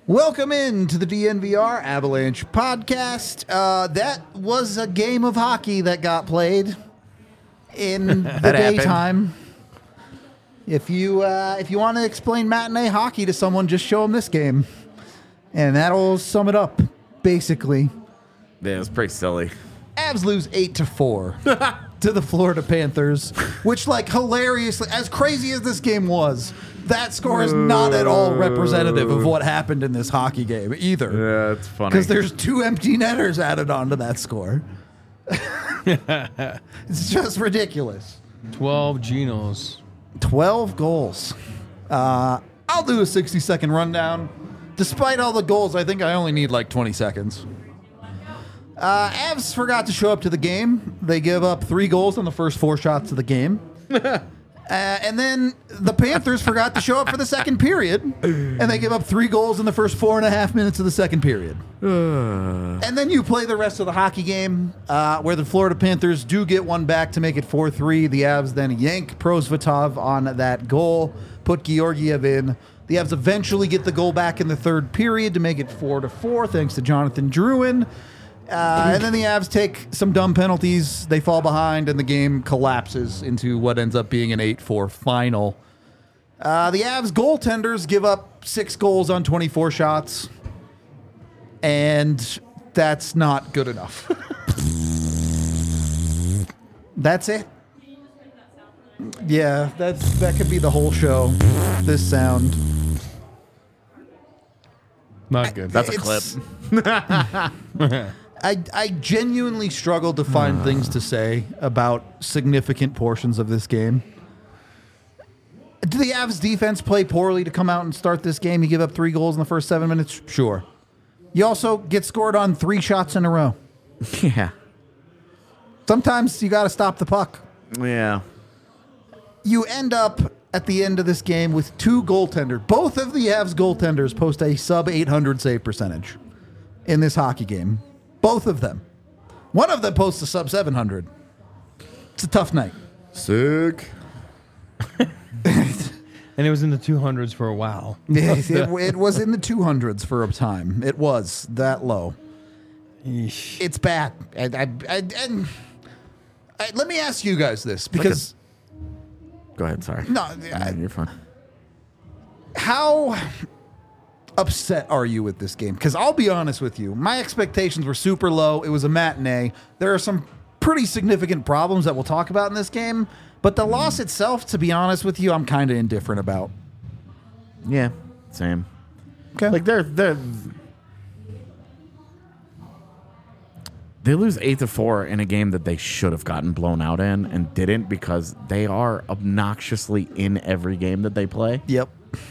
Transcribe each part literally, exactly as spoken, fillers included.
Welcome in to the D N V R Avalanche podcast. Uh, that was a game of hockey that got played in the daytime. If you uh, if you want to explain matinee hockey to someone, just show them this game, and that'll sum it up. Basically, yeah, it was pretty silly. Avs lose eight to four to the Florida Panthers, which, like, hilariously, as crazy as this game was, that score is not at all representative of what happened in this hockey game either. Yeah, it's funny. Because there's two empty netters added onto that score. It's just ridiculous. twelve Genos. twelve goals. Uh, I'll do a sixty-second rundown. Despite all the goals, I think I only need like twenty seconds. Uh, Avs forgot to show up to the game. They give up three goals on the first four shots of the game. Uh, and then the Panthers forgot to show up for the second period, and they give up three goals in the first four and a half minutes of the second period. And then you play the rest of the hockey game, uh, where the Florida Panthers do get one back to make it four three. The Avs then yank Prosvetov on that goal, put Georgiev in. The Avs eventually get the goal back in the third period to make it four to four, thanks to Jonathan Drouin. Uh, and then the Avs take some dumb penalties. They fall behind, and the game collapses into what ends up being an eight four final. Uh, the Avs goaltenders give up six goals on twenty-four shots, and that's not good enough. That's it. Yeah, that's that could be the whole show. This sound. Not good. That's a It's- clip. I, I genuinely struggled to find uh. things to say about significant portions of this game. Did the Avs defense play poorly to come out and start this game? You give up three goals in the first seven minutes? Sure. You also get scored on three shots in a row. Yeah. Sometimes you got to stop the puck. Yeah. You end up at the end of this game with two goaltenders. Both of the Avs goaltenders post a sub eight hundred save percentage in this hockey game. Both of them. One of them posts a sub seven hundred. It's a tough night. Sick. And it was in the two hundreds for a while. it, it, it was in the two hundreds for a time. It was that low. Eesh. It's bad. And, I, I, and I, let me ask you guys this, because... Go ahead, sorry. No, I, you're fine. How upset are you with this game? Because I'll be honest with you, my expectations were super low. It was a matinee. There are some pretty significant problems that we'll talk about in this game, but the loss itself, to be honest with you, I'm kind of indifferent about. Yeah, same. Okay. Like they're they're they lose eight to four in a game that they should have gotten blown out in and didn't, because they are obnoxiously in every game that they play. Yep.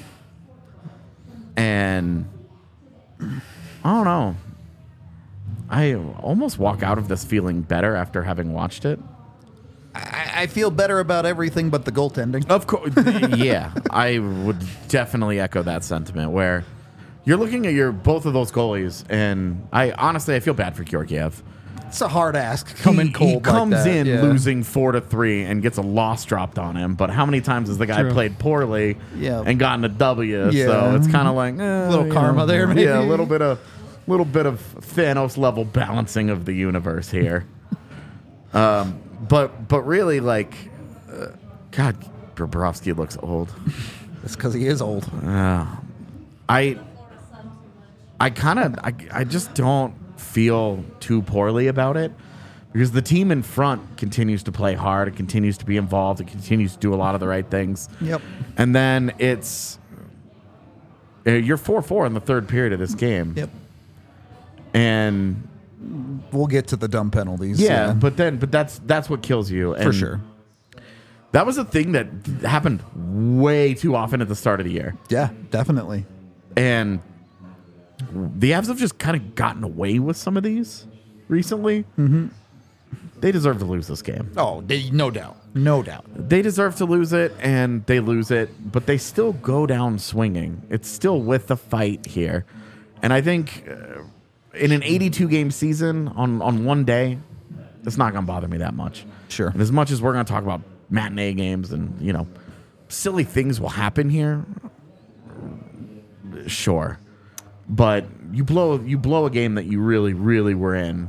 And I don't know. I almost walk out of this feeling better after having watched it. I, I feel better about everything but the goaltending. Of course. Yeah, I would definitely echo that sentiment, where you're looking at your both of those goalies, and I honestly I feel bad for Georgiev. It's a hard ask coming he, cold. He comes like that. in yeah. losing four to three and gets a loss dropped on him. But how many times has the guy True. played poorly Yeah. and gotten a W? Yeah. So it's kind of like eh, A little you karma know, there, maybe. Yeah, a little bit of little bit of Thanos level balancing of the universe here. um, but but really, like, uh, God, Bobrovsky looks old. It's because he is old. Uh, I I kind of I, I just don't feel too poorly about it, because the team in front continues to play hard, it continues to be involved, it continues to do a lot of the right things. Yep. And then it's uh, you're four four in the third period of this game. Yep. And We'll get to the dumb penalties. yeah, but then but that's that's what kills you. And for sure. That was a thing that happened way too often at the start of the year. Yeah, definitely. And the Avs have just kind of gotten away with some of these recently. Mm-hmm. They deserve to lose this game. Oh, they, no doubt. No doubt. They deserve to lose it, and they lose it, but they still go down swinging. It's still with the fight here. And I think uh, in an eighty-two game season on, on one day, it's not going to bother me that much. Sure. And as much as we're going to talk about matinee games and, you know, silly things will happen here, sure. but you blow you blow a game that you really, really were in,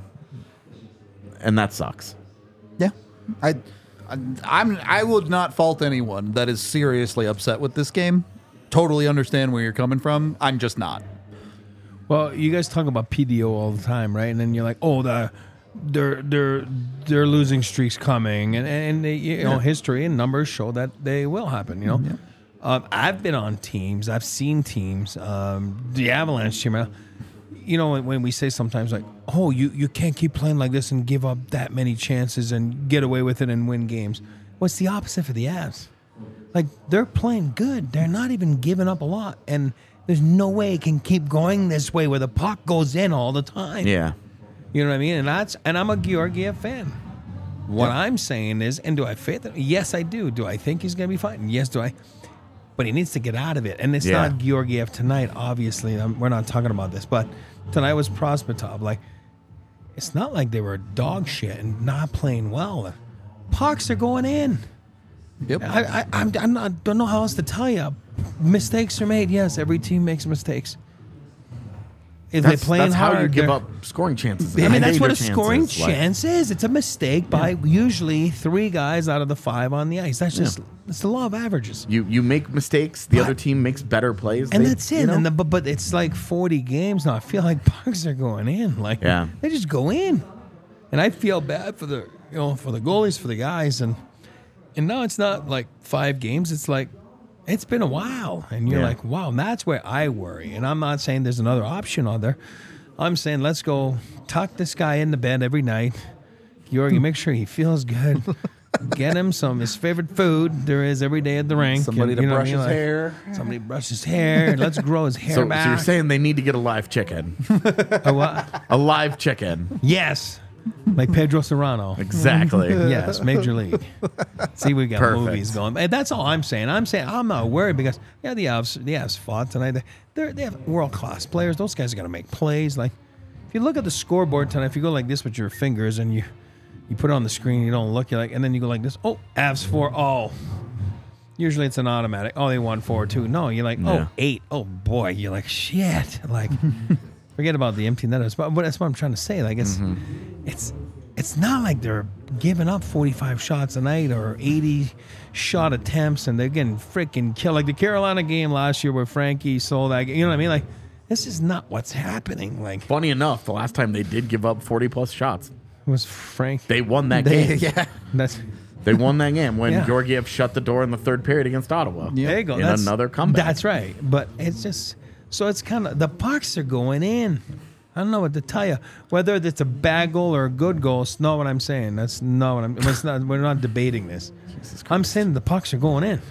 and that sucks. Yeah, I, I, I'm I would not fault anyone that is seriously upset with this game. Totally understand where you're coming from. I'm just not. Well, you guys talk about P D O all the time, right? And then you're like, oh, the their their their losing streaks coming, and and they, you know, history and numbers show that they will happen. You know, Yeah. um, I've been on teams, I've seen teams, um, the Avalanche team. uh, You know, when, when we say sometimes like, oh, you you can't keep playing like this and give up that many chances and get away with it and win games. What's the opposite for the Avs? Like, they're playing good. They're not even giving up a lot, and there's no way it can keep going this way where the puck goes in all the time. Yeah. You know what I mean? And that's and I'm a Georgiev fan. What Yeah. I'm saying is, and do I faith it? Yes, I do. Do I think he's going to be fine? Yes, do I? But he needs to get out of it. And it's Yeah. not Georgiev tonight, obviously. Um, We're not talking about this. But tonight was Prospetov. Like, it's not like they were dog shit and not playing well. The pucks are going in. Yep. I, I, I'm, I'm not, don't know how else to tell you. Mistakes are made. Yes, every team makes mistakes. If That's, they're playing that's hard, how you give they're- up scoring chances. I mean, that's Major what a chances, scoring like- chance is. It's a mistake by usually three guys out of the five on the ice. That's just it's the law of averages. You you make mistakes. The But- other team makes better plays. And They- that's it. you know? And the, but, but it's like forty games now. I feel like pucks are going in. Like Yeah. they just go in. And I feel bad for the you know for the goalies, for the guys, and and now it's not like five games. It's like it's been a while, and you're Yeah. like, wow. And that's where I worry. And I'm not saying there's another option on there. I'm saying let's go tuck this guy in the bed every night. Georgi, make sure he feels good. Get him some his favorite food there is every day at the rink. Somebody and, to you know what brush I mean? his Like, hair. Somebody brush his hair. Let's grow his hair So, so back. you're saying they need to get a live chicken, A what? a live chicken. Yes. Like Pedro Serrano. Exactly. Yes, Major League. See, we got Perfect. movies going. And that's all I'm saying. I'm saying I'm not worried because yeah, the Avs, the Avs fought tonight. They they're, they have world class players. Those guys are gonna make plays. Like if you look at the scoreboard tonight, if you go like this with your fingers and you you put it on the screen, you don't look, you're like, and then you go like this. Oh, Avs four. Oh. Usually it's an automatic. Oh, they won four two. No, you're like, oh, Yeah. eight. Oh boy, you're like shit. Like. Forget about the empty netters, but, but that's what I'm trying to say. Like it's, it's, it's not like they're giving up forty-five shots a night or eighty shot attempts, and they're getting freaking killed. Like the Carolina game last year where Frankie sold that. You know what I mean? Like this is not what's happening. Like Funny enough, the last time they did give up forty plus shots, it was Frank. they won that They- game. yeah. That's They won that game when Yeah. Georgiev shut the door in the third period against Ottawa. Yeah. there you go. In That's, another comeback. That's right. But it's just so it's kind of the pucks are going in. I don't know what to tell you. Whether it's a bad goal or a good goal, it's not what I'm saying. That's not what I'm. It's not. We're not debating this. I'm saying the pucks are going in.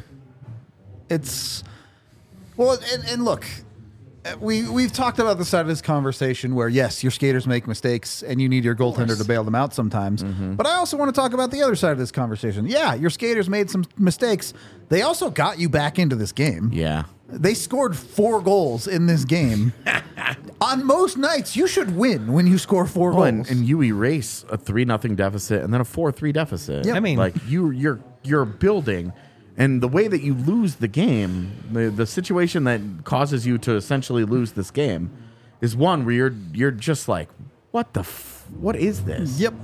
It's well, and, and look, we we've talked about the side of this conversation where yes, your skaters make mistakes and you need your goaltender to bail them out sometimes. But I also want to talk about the other side of this conversation. Yeah, your skaters made some mistakes. They also got you back into this game. Yeah. They scored four goals in this game. On most nights, you should win when you score four Oh, goals. and, and you erase a three nothing deficit and then a four three deficit. Yep. I mean- like you you're you're building, and the way that you lose the game, the, the situation that causes you to essentially lose this game, is one where you're you're just like, what the f- what is this? Yep.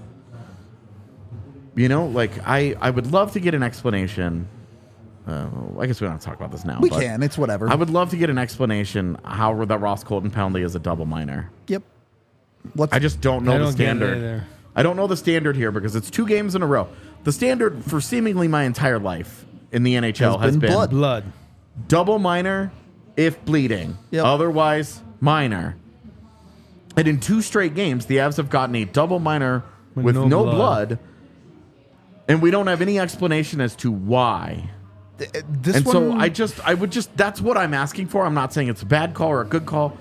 You know, like I I would love to get an explanation. Uh, I guess we don't have to talk about this now. We but can. It's whatever. I would love to get an explanation how that Ross Colton penalty is a double minor. Yep. What's I just don't know I the don't get it standard. either. I don't know the standard here because it's two games in a row. The standard for seemingly my entire life in the N H L Has has, been been, blood. Blood. double minor if bleeding. Yep. Otherwise, minor. And in two straight games, the Avs have gotten a double minor With with, no no, blood. blood. And we don't have any explanation as to why. th- this and one? so I just, I would just, that's what I'm asking for. I'm not saying it's a bad call or a good call.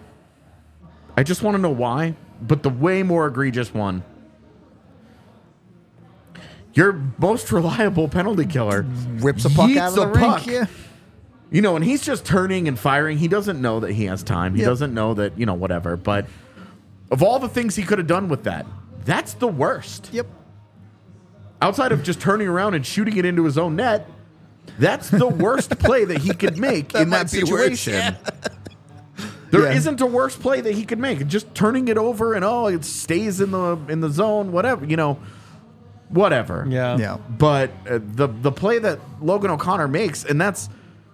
I just want to know why. But the way more egregious one, your most reliable penalty killer rips a puck yeets out of the a rink. puck. Yeah. You know, and he's just turning and firing. He doesn't know that he has time. He Yep. doesn't know that, you know, whatever. But of all the things he could have done with that, that's the worst. Yep. Outside of just turning around and shooting it into his own net, that's the worst play that he could make That in might that be worse, situation. yeah. There Yeah. isn't a worse play that he could make. Just turning it over and oh, it stays in the in the zone, whatever, you know, whatever. Yeah. Yeah. But uh, the the play that Logan O'Connor makes, and that's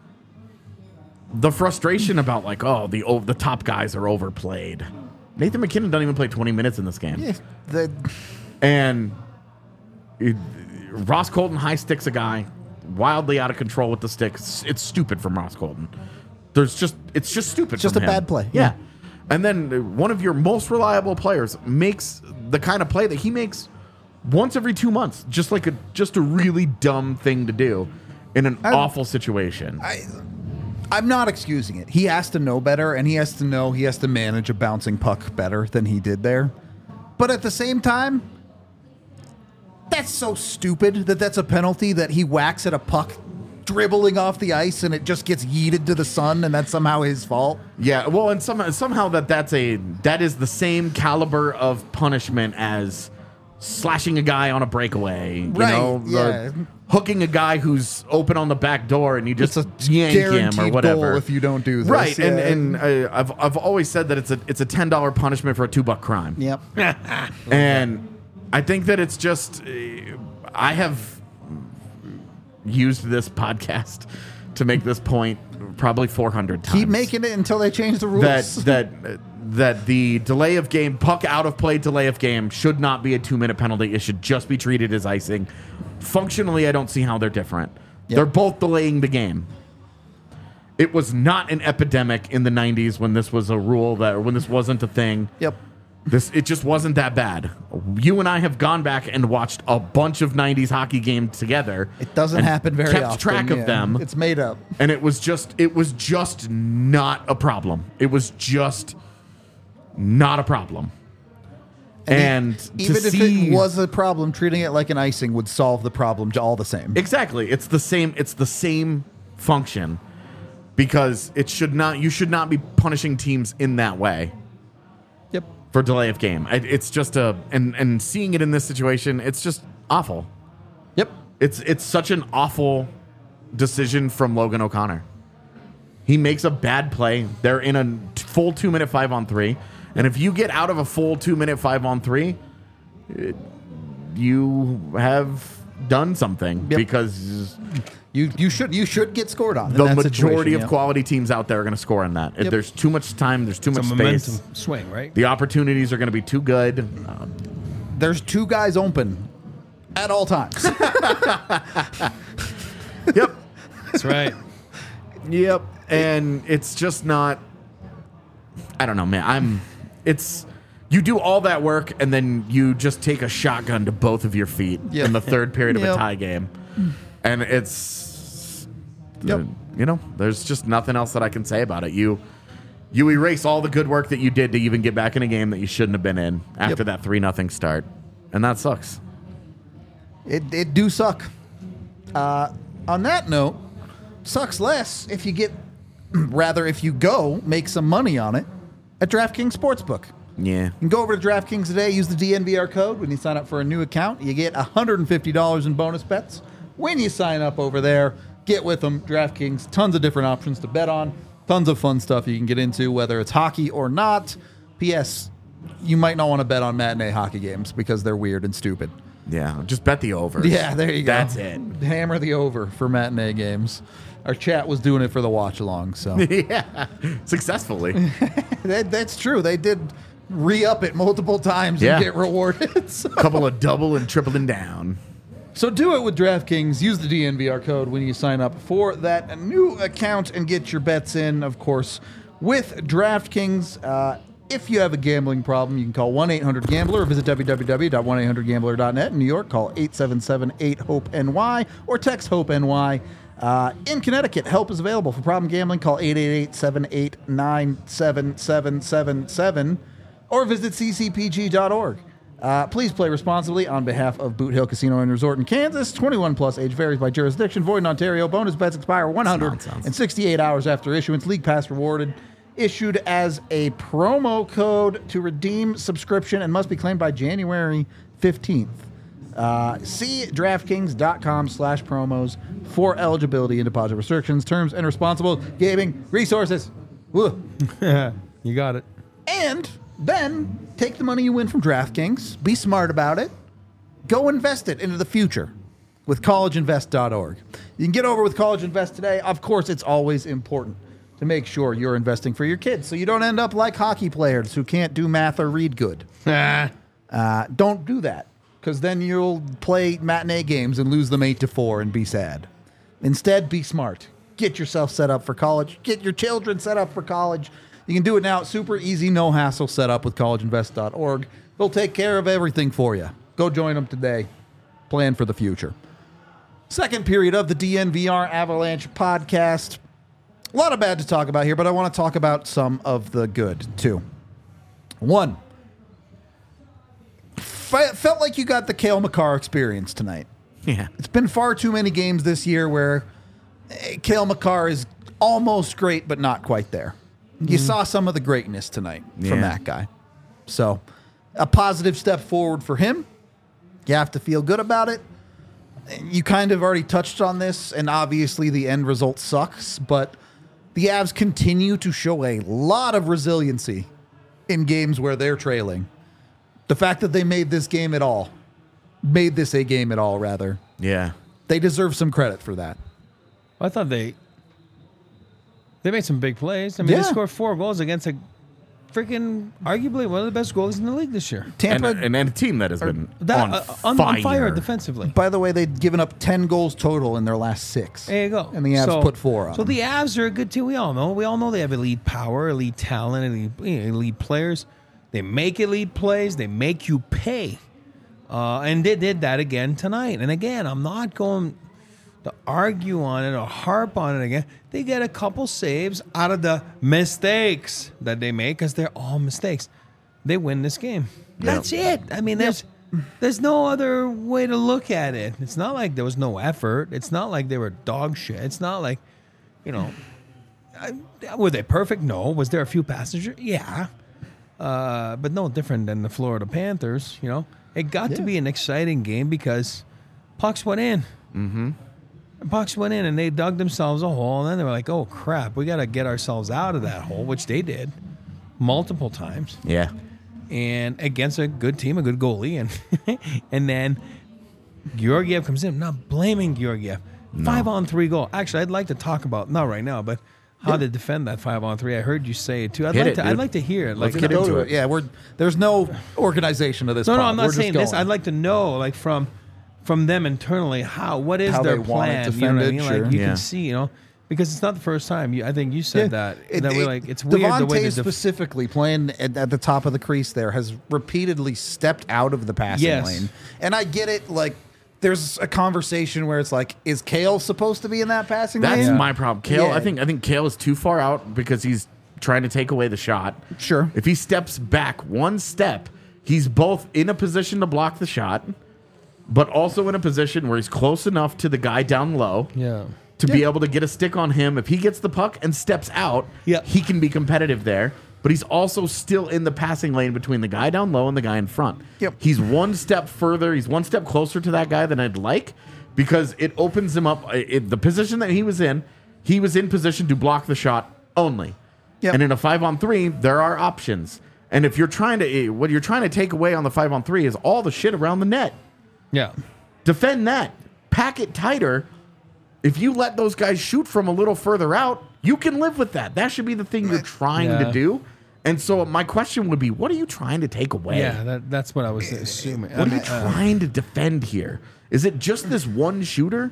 the frustration about like, oh, the oh, the top guys are overplayed. Nathan McKinnon doesn't even play twenty minutes in this game, Yeah, the, and it, Ross Colton high sticks a guy wildly out of control with the stick. It's, it's stupid from Ross Colton. There's just it's just stupid. Just from a him. bad play. Yeah. And then uh, one of your most reliable players makes the kind of play that he makes once every two months, just like a just a really dumb thing to do in an I- awful situation. I, I'm not excusing it. He has to know better, and he has to know he has to manage a bouncing puck better than he did there. But at the same time, that's so stupid that that's a penalty that he whacks at a puck dribbling off the ice and it just gets yeeted to the sun, and that's somehow his fault. Yeah, well, and somehow somehow that that's a that is the same caliber of punishment as slashing a guy on a breakaway, you Right, know, the- yeah. hooking a guy who's open on the back door and you just It's a yank him or guaranteed whatever. goal if you don't do this. Right, and yeah. and uh, I've I've always said that it's a it's a ten dollar punishment for a two buck crime. Yep. And I think that it's just, uh, I have used this podcast to make this point probably four hundred times. Keep making it until they change the rules. that that that the delay of game, puck out of play delay of game should not be a two minute penalty. It should just be treated as icing. Functionally, I don't see how they're different. Yep. They're both delaying the game. It was not an epidemic in the nineties when this was a rule that, or when this wasn't a thing. Yep. This it just wasn't that bad. You and I have gone back and watched a bunch of nineties hockey games together. It doesn't and happen very kept often. track of yeah. them, It's made up. and it was just it was just not a problem. It was just not a problem. And, E- to even if see, it was a problem, treating it like an icing would solve the problem all the same. exactly, it's the same. It's the same function because it should not. You should not be punishing teams in that way. Yep. For delay of game. It- It's just a and and seeing it in this situation, it's just awful. Yep. It's it's such an awful decision from Logan O'Connor. He makes a bad play. They're in a t- full two minute five on three, and if you get out of a full two minute five on three, it- you have done something Yep. because You you should you should get scored on. in the that majority situation, of yeah. quality teams out there are going to score on that. If Yep. there's too much time, there's too It's a much momentum space. swing, right? The opportunities are going to be too good. Uh, There's two guys open at all times. yep. That's right. Yep. And it's just not I don't know, man. I'm it's you do all that work and then you just take a shotgun to both of your feet Yep. in the third period of Yep. a tie game. And it's Yep. uh, you know, there's just nothing else that I can say about it. You you erase all the good work that you did to even get back in a game that you shouldn't have been in after Yep. that three nothing start. And that sucks. it it do suck. Uh, on that note, sucks less if you get rather if you go make some money on it at DraftKings Sportsbook. Yeah. You can go over to DraftKings today, use the D N V R code when you sign up for a new account. You get one hundred fifty dollars in bonus bets when you sign up over there. Get with them, DraftKings. Tons of different options to bet on. Tons of fun stuff you can get into, whether it's hockey or not. P S. You might not want to bet on matinee hockey games because they're weird and stupid. Yeah. Just bet the over. Yeah, there you go. That's it. Hammer the over for matinee games. Our chat was doing it for the watch along, so yeah. Successfully. that, that's true. They did re-up it multiple times Yeah. and get rewarded. So. Couple of double and tripling down. So do it with DraftKings. Use the D N V R code when you sign up for that new account and get your bets in, of course, with DraftKings. Uh, if you have a gambling problem, you can call one eight hundred gambler or visit w w w dot one eight hundred gambler dot net. In New York, call eight seven seven eight hope N Y or text HOPE-N-Y. Uh, in Connecticut, help is available for problem gambling. Call eight eight eight, seven eight nine, seven seven seven seven or visit c c p g dot org. Uh, please play responsibly on behalf of Boot Hill Casino and Resort in Kansas. twenty-one plus, age varies by jurisdiction. Void in Ontario. Bonus bets expire one hundred sixty-eight hours after issuance. League pass rewarded. Issued as a promo code to redeem subscription and must be claimed by January fifteenth. Uh, see DraftKings.com slash promos for eligibility and deposit restrictions, terms, and responsible gaming resources. Woo. You got it. And then take the money you win from DraftKings, be smart about it, go invest it into the future with college invest dot org. You can get over with College Invest today. Of course, it's always important to make sure you're investing for your kids so you don't end up like hockey players who can't do math or read good. Ah. Uh, don't do that, because then you'll play matinee games and lose them eight to four and be sad. Instead, be smart. Get yourself set up for college. Get your children set up for college. You can do it now. It's super easy, no hassle setup with college invest dot org. They'll take care of everything for you. Go join them today. Plan for the future. Second period of the D N V R Avalanche podcast. A lot of bad to talk about here, but I want to talk about some of the good, too. One. F- felt like you got the Cale Makar experience tonight. Yeah. It's been far too many games this year where eh, Cale Makar is almost great, but not quite there. You saw some of the greatness tonight from Yeah. that guy. So, a positive step forward for him. You have to feel good about it. You kind of already touched on this, and obviously the end result sucks, but the Avs continue to show a lot of resiliency in games where they're trailing. The fact that they made this game at all, made this a game at all, rather, Yeah. they deserve some credit for that. I thought they they made some big plays. I mean, Yeah. they scored four goals against a freaking arguably one of the best goalies in the league this year. Tampa, And, and, and a team that has been That on, uh, on, fire. on fire defensively. by the way, they'd given up ten goals total in their last six. There you go. And the Avs So- put four on So them. the Avs are a good team. We all know. We all know they have elite power, elite talent, elite, you know, elite players. They make elite plays. They make you pay. Uh, and they did that again tonight. And again, I'm not going to argue on it or harp on it again. They get a couple saves out of the mistakes that they make, because they're all mistakes. They win this game. That's it. I mean, there's there's no other way to look at it. It's not like there was no effort. It's not like they were dog shit. It's not like, you know, I, were they perfect? No. Was there a few passengers? Yeah. Uh, but no different than the Florida Panthers, you know. It got to Yeah. be an exciting game because pucks went in. Mm-hmm. Pucks went in and they dug themselves a hole, and then they were like, oh, crap, we got to get ourselves out of that hole, which they did multiple times. Yeah. And against a good team, a good goalie. And and then Georgiev comes in. I'm not blaming Georgiev. Five on three goal. Actually, I'd like to talk about, not right now, but how to defend that five on three. I heard you say it too. I'd Hit like it, to. I'd dude. like to hear it. Like, Let's get Go into to it. Yeah, we're there's no organization of this. no, no, pod. I'm We're not just saying this. going. I'd like to know, like from from them internally, how what is How their they want it plan? You know what I defended, mean? sure. Like you Yeah. can see, you know, because it's not the first time. You, I think you said that It- that we're it- like it's weird the way Devontae they def- specifically playing at, at the top of the crease there has repeatedly stepped out of the passing Yes. lane, and I get it. Like, there's a conversation where it's like, is Cale supposed to be in that passing That's lane? my problem. Kale, Yeah. I think I think Kale is too far out because he's trying to take away the shot. Sure. If he steps back one step, he's both in a position to block the shot, but also in a position where he's close enough to the guy down low Yeah. to be Yeah. able to get a stick on him. If he gets the puck and steps out, Yeah. he can be competitive there. But he's also still in the passing lane between the guy down low and the guy in front. Yep. He's one step further. He's one step closer to that guy than I'd like, because it opens him up. It, the position that he was in, he was in position to block the shot only. Yep. And in a five on three, there are options. And if you're trying to, what you're trying to take away on the five on three is all the shit around the net. Yeah. Defend that. Pack it tighter. If you let those guys shoot from a little further out, you can live with that. That should be the thing you're trying Yeah. to do. And so my question would be, what are you trying to take away? Yeah. That, that's what I was assuming. What I are you mean, uh, trying to defend here? Is it just this one shooter?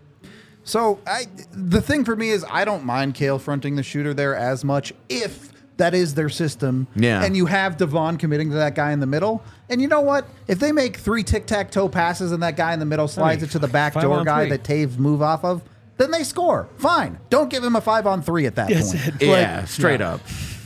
So I, the thing for me is I don't mind Cale fronting the shooter there as much if that is their system. Yeah. And you have Devon committing to that guy in the middle. And you know what? If they make three tic-tac-toe passes and that guy in the middle slides mean, it to the back five door on guy three. that Taves move off of, then they score. Fine. Don't give him a five on three at that Yes, point. it- Yeah, straight up.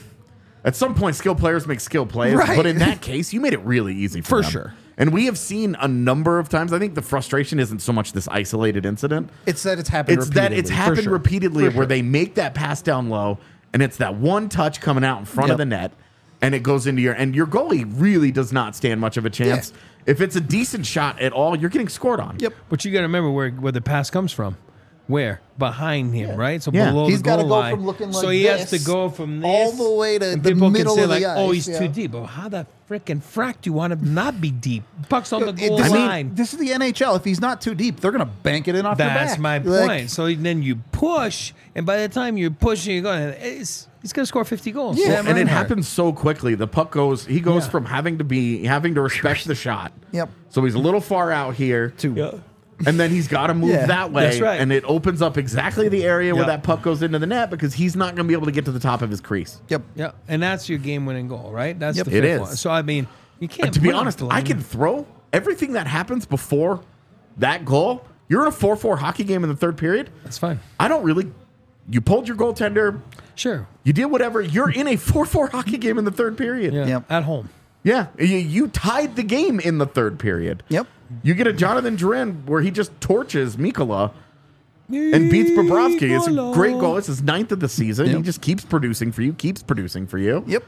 At some point, skill players make skill plays. Right. But in that case, you made it really easy for, For them. sure. And we have seen a number of times. I think the frustration isn't so much this isolated incident. It's that it's happened It's that it's repeatedly, for happened sure. repeatedly For where sure. they make that pass down low, and it's that one touch coming out in front of Yep. the net, and it goes into your and your goalie really does not stand much of a chance. If it's a decent shot at all, you're getting scored on. Yep. But you got to remember where, where the pass comes from. Where? Behind him, right? So Yeah. below He's the gotta goal go line. from looking so like he has this to go from this all the way to and the people middle can say of the like, "Oh, ice, he's yeah. too deep." But how the frickin' frack do you want him to not be deep? Puck's on the It- goal this, line. is, this is the N H L. If he's not too deep, they're going to bank it in off your back. That's my Like, point. So then you push, and by the time you're pushing, you're going, it's, he's going to score fifty goals. Yeah. Sam and it Reinhart. happens so quickly. The puck goes. He goes Yeah. from having to be having to respect the shot. Yep. So he's a little far out here. To Yeah. And then he's got to move Yeah, that way, that's right. and it opens up exactly the area where Yeah. that puck goes into the net because he's not going to be able to get to the top of his crease. Yep. Yeah, and that's your game-winning goal, right? That's Yep. the It fifth is. one. So I mean, you can't. And to be put him honest, I below- can throw everything that happens before that goal. You're in a four four hockey game in the third period. That's fine. I don't really. You pulled your goaltender. Sure. You did whatever. You're in a four four hockey game in the third period. Yeah. Yep. At home. Yeah, you, you tied the game in the third period. Yep. You get a Jonathan Drouin where he just torches Mikola and beats Bobrovsky. It's a great goal. It's his ninth of the season. Yep. He just keeps producing for you, keeps producing for you. Yep.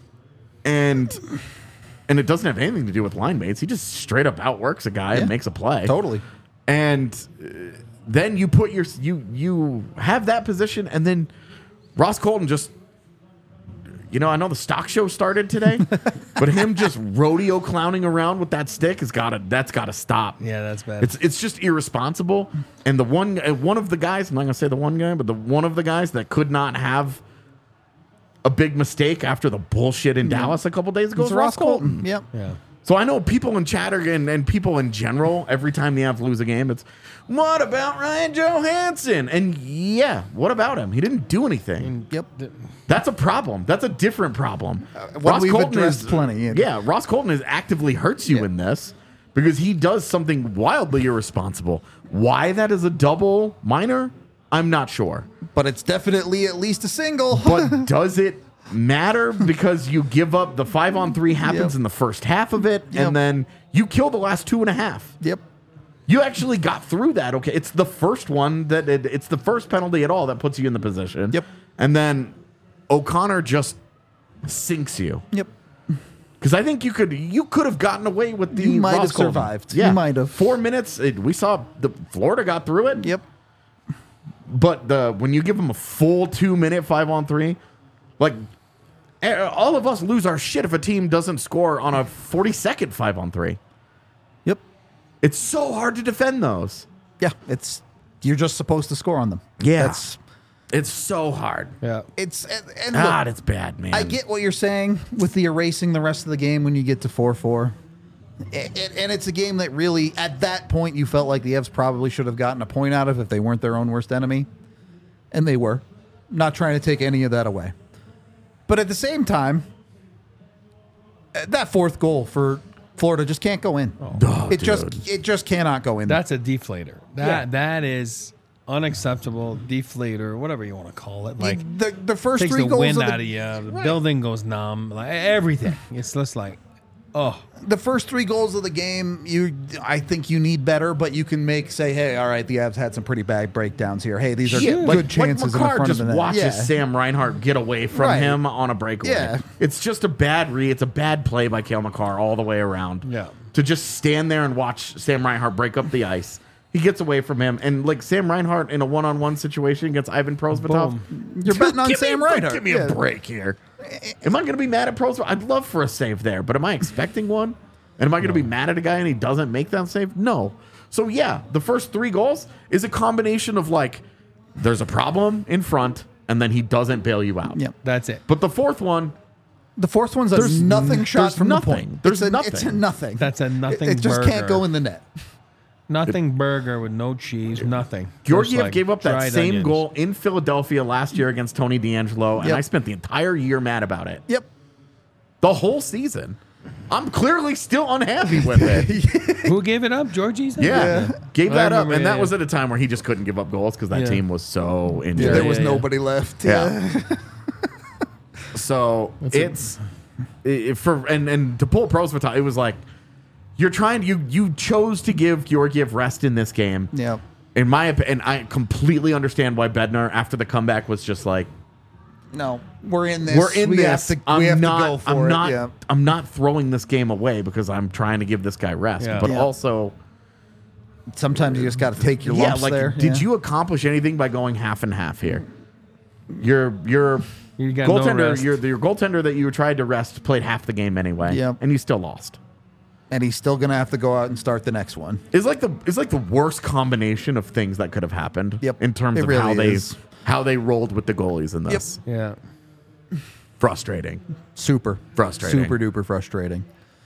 And and it doesn't have anything to do with line mates. He just straight up outworks a guy Yeah. and makes a play. Totally. And uh, then you put your you you have that position, and then Ross Colton just. You know, I know the stock show started today, but him just rodeo clowning around with that stick has got to that's got to stop. Yeah, that's bad. It's it's just irresponsible. And the one uh, one of the guys, I'm not gonna say the one guy, but the one of the guys that could not have a big mistake after the bullshit in Dallas a couple days ago It's was Ross Colton. Yep. yeah. So I know people in chatter and, and people in general, every time the Avs lose a game, it's what about Ryan Johansson? And yeah, what about him? He didn't do anything. Yep. That's a problem. That's a different problem. one we've addressed plenty, yeah. Yeah, Ross Colton is actively hurts you Yeah. in this because he does something wildly irresponsible. Why that is a double minor, I'm not sure. But it's definitely at least a single. But does it matter because you give up the five on three happens Yep. in the first half of it, Yep. and then you kill the last two and a half. Yep. You actually got through that. Okay, it's the first one that it, it's the first penalty at all that puts you in the position. Yep. And then O'Connor just sinks you. Yep. Because I think you could you could have gotten away with the You might Ross have Colton. survived. Yeah, You might have. four minutes. It, we saw the Florida got through it. Yep. But the when you give them a full two minute five on three, like eh, all of us lose our shit if a team doesn't score on a forty second five on three. Yep. It's so hard to defend those. Yeah. It's you're just supposed to score on them. Yeah. That's It's so hard. Yeah. it's and, and look, God, it's bad, man. I get what you're saying with the erasing the rest of the game when you get to four four. And, and it's a game that really, at that point, you felt like the Evs probably should have gotten a point out of if they weren't their own worst enemy. And they were. Not trying to take any of that away. But at the same time, uh, that fourth goal for Florida just can't go in. Oh, it just dude. it just cannot go in. That's a deflator. That Yeah. that is unacceptable. Deflator, whatever you want to call it. Like the the first takes three the goals wind of the, out of you. The Right. building goes numb. Like everything. It's just like, oh, the first three goals of the game, you I think you need better, but you can make say, hey, all right, the Avs had some pretty bad breakdowns here. Hey, these are Yeah, good like, chances like in the McCarr front just of the net. watches Yeah. Sam Reinhart get away from Right. him on a breakaway. Yeah. It's just a bad read. It's a bad play by Cale McCarr all the way around. Yeah. To just stand there and watch Sam Reinhart break up the ice. He gets away from him, and like Sam Reinhart in a one-on-one situation against Ivan Prosvetov. You're betting on Give me- Sam Reinhart. Give me Yeah. a break here. Am I going to be mad at Prosvetov? I'd love for a save there, but am I expecting one? And am I going to be mad at a guy and he doesn't make that save? No. So yeah, the first three goals is a combination of like, there's a problem in front, and then he doesn't bail you out. Yeah. that's it. But the fourth one, The fourth one's a There's nothing n- shot there's from nothing. the point. There's it's a, nothing. It's a nothing. That's a nothing It, it just can't burger. go in the net. Nothing burger with no cheese, nothing. Just Georgiev like gave up that dried same onions. goal in Philadelphia last year against Tony D'Angelo, and Yep. I spent the entire year mad about it. Yep. The whole season. I'm clearly still unhappy with it. Who gave it up? Georgie's? Yeah. Gave I that up. remember, And that yeah. was at a time where he just couldn't give up goals because that Yeah. team was so injured. Yeah, there was yeah, yeah. nobody left. Yeah. So it's it, for and and to pull Prosvetov, it was like you're trying you you chose to give Georgiev rest in this game. Yeah. In my opinion, and I completely understand why Bednar after the comeback was just like, No, we're in this. we're in we this. Have to, I'm we have not. to go for I'm it. not. Yeah. I'm not throwing this game away because I'm trying to give this guy rest. Yeah. But Yeah. also, Sometimes you just got to take your yeah, lumps like, there. did yeah. you accomplish anything by going half and half here? Your your You got no goaltender, rest. your your goaltender that you tried to rest played half the game anyway, Yep. and you still lost. And he's still going to have to go out and start the next one. It's like the it's like the worst combination of things that could have happened. Yep. In terms It of really how they is. how they rolled with the goalies in this. Yeah. Frustrating. Super. Frustrating. Super duper frustrating.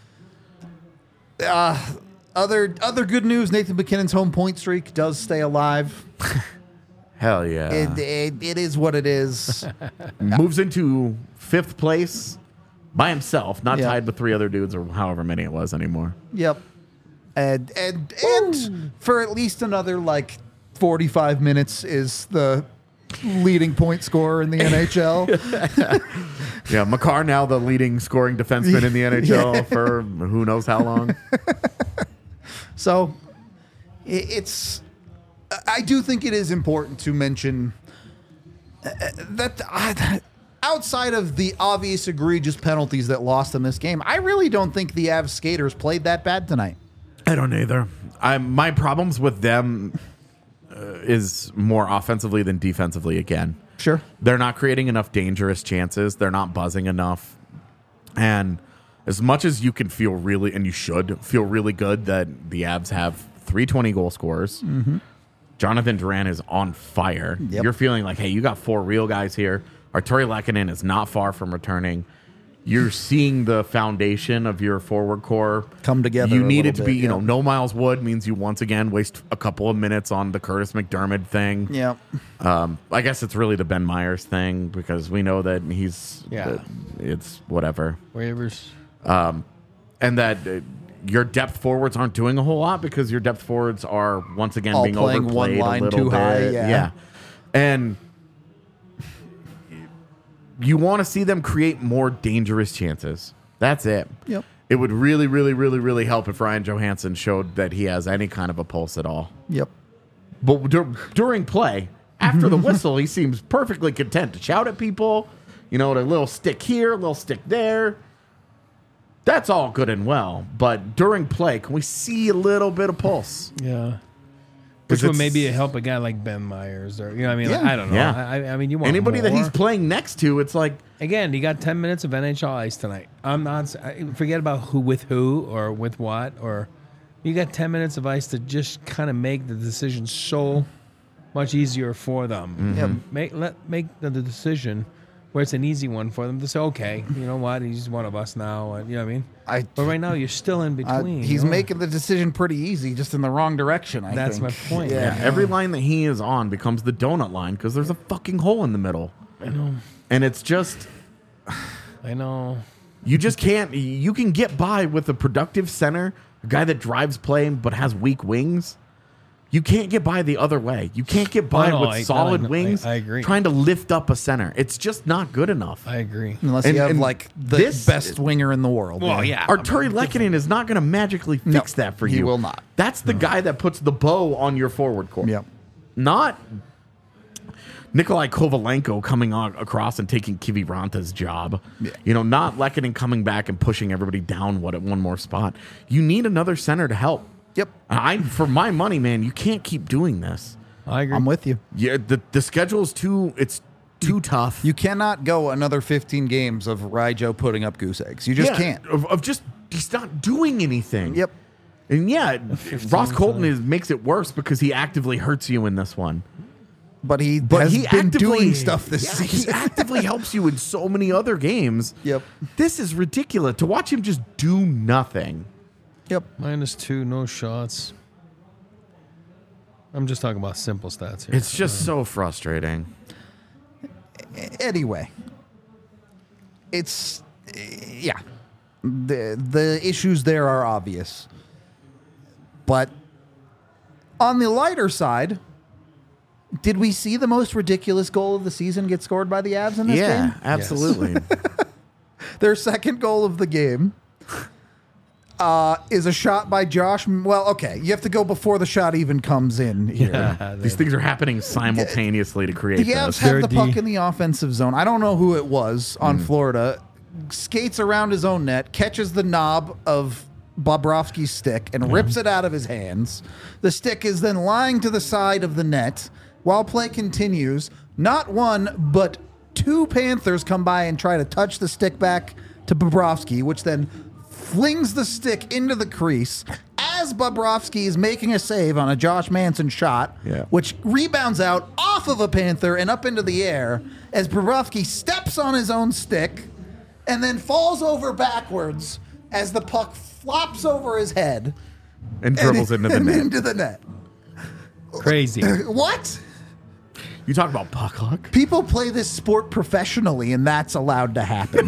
Uh, other other good news, Nathan McKinnon's home point streak does stay alive. Hell yeah. It, it, it is what it is. Moves into fifth place by himself, not Yeah. tied with three other dudes or however many it was anymore. Yep. And and and for at least another like forty-five minutes is the leading point scorer in the N H L. Yeah, Makar now the leading scoring defenseman in the N H L for who knows how long. So i- it's I do think it is important to mention uh, that uh, outside of the obvious egregious penalties that lost them this game, I really don't think the Avs skaters played that bad tonight. I don't either. I my problems with them uh, is more offensively than defensively again. Sure. They're not creating enough dangerous chances. They're not buzzing enough. And as much as you can feel really, and you should feel really good that the Avs have three twenty goal scorers, Jonathan Duran is on fire. Yep. You're feeling like, hey, you got four real guys here. Arturi Lehkonen is not far from returning. You're seeing the foundation of your forward core Come together You a need it little to be, bit, you know, yeah. no Miles Wood means you once again waste a couple of minutes on the Curtis McDermott thing. Yeah. Um, I guess it's really the Ben Myers thing because we know that he's, Yeah. that it's whatever. Waivers. And that uh, your depth forwards aren't doing a whole lot because your depth forwards are once again All being playing one overplayed line a little too bit. high, yeah. And you want to see them create more dangerous chances. That's it. Yep. It would really, really, really, really help if Ryan Johansson showed that he has any kind of a pulse at all. Yep. But dur- during play, after the whistle, he seems perfectly content to shout at people. You know, a little stick here, a little stick there. That's all good and well. But during play, can we see a little bit of pulse? Yeah. 'Cause Which would it's- maybe help a guy like Ben Myers or, you know what I mean? Like, Yeah. I don't know. Yeah. I, I mean, you want Anybody that more. he's playing next to, it's like, Again, he got ten minutes of N H L ice tonight. I'm not, I- forget about who with who or with what, or you got ten minutes of ice to just kind of make the decision so much easier for them. Yep. Make let make the, the decision where it's an easy one for them to say, okay, you know what, he's one of us now. And, you know what I mean? I But right now, you're still in uh, between. he's you know? making the decision pretty easy, just in the wrong direction. I That's think. my point. Yeah. yeah, every line that he is on becomes the donut line because there's a fucking hole in the middle. I know. And it's just, I know. you just can't, you can get by with a productive center, a guy that drives play but has weak wings. You can't get by the other way. You can't get by Oh, no, with I- solid I- I- wings I agree. trying to lift up a center. It's just not good enough. I agree. Unless And- you have and like the this- best winger in the world. Well, yeah. Arturi Lehkonen is not going to magically No, fix that for he you. will not. That's the guy that puts the bow on your forward core. Yep. Not Nikolai Kovalenko coming on across and taking Kiviranta's job. Yeah. You know, not Lehkonen coming back and pushing everybody down one, one more spot. You need another center to help. Yep. I, for my money, man, you can't keep doing this. I agree. I'm with you. Yeah, the the schedule's too it's too tough. You cannot go another fifteen games of Ryjo putting up goose eggs. You just Yeah, can't. Of, of just he's not doing anything. Yep. And yeah, Ross Colton time. is makes it worse because he actively hurts you in this one. But he But has he been actively doing stuff this yeah, season. He actively helps you in so many other games. Yep. This is ridiculous to watch him just do nothing. Yep. Minus two, no shots. I'm just talking about simple stats here. It's just so frustrating. Anyway, it's yeah. The the issues there are obvious. But on the lighter side, did we see the most ridiculous goal of the season get scored by the Avs in this Yeah, game? absolutely. Their second goal of the game uh, is a shot by Josh. Well, okay, you have to go before the shot even comes in here. yeah, These things are happening simultaneously to create The Avs this. have They're the puck D. in the offensive zone. I don't know who it was on Hmm. Florida. Skates around his own net, catches the knob of Bobrovsky's stick and rips it out of his hands. The stick is then lying to the side of the net while play continues. Not one, but two Panthers come by and try to touch the stick back to Bobrovsky, which then flings the stick into the crease as Bobrovsky is making a save on a Josh Manson shot, Yeah. which rebounds out off of a Panther and up into the air as Bobrovsky steps on his own stick and then falls over backwards as the puck flops over his head And dribbles and, into the and net. into the net. Crazy. What? You talk about puck luck? People play this sport professionally, and that's allowed to happen.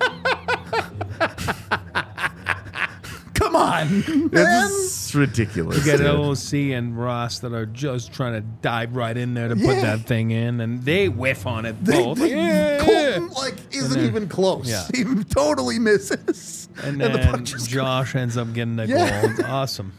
Come on, man. It's ridiculous. You got dude. L O C and Ross that are just trying to dive right in there to Yeah. put that thing in, and they whiff on it They- both. they- Yeah. Colton like isn't then- even close. Yeah. He totally misses, And the then puck just- Josh ends up getting the Yeah. goal. It's awesome.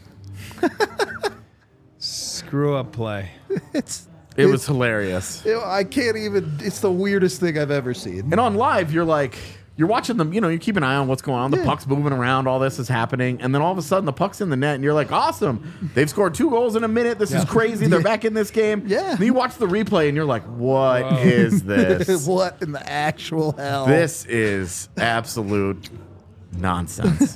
Screw up play. It's It was hilarious. you know, I can't even. It's the weirdest thing I've ever seen. And on live, you're like, you're watching them, you know, you keep an eye on what's going on. The Yeah. puck's moving around, all this is happening. And then all of a sudden, the puck's in the net, and you're like, awesome. They've scored two goals in a minute. This is crazy. They're back in this game. Yeah. Then you watch the replay, and you're like, what is this? What in the actual hell? This is absolute nonsense.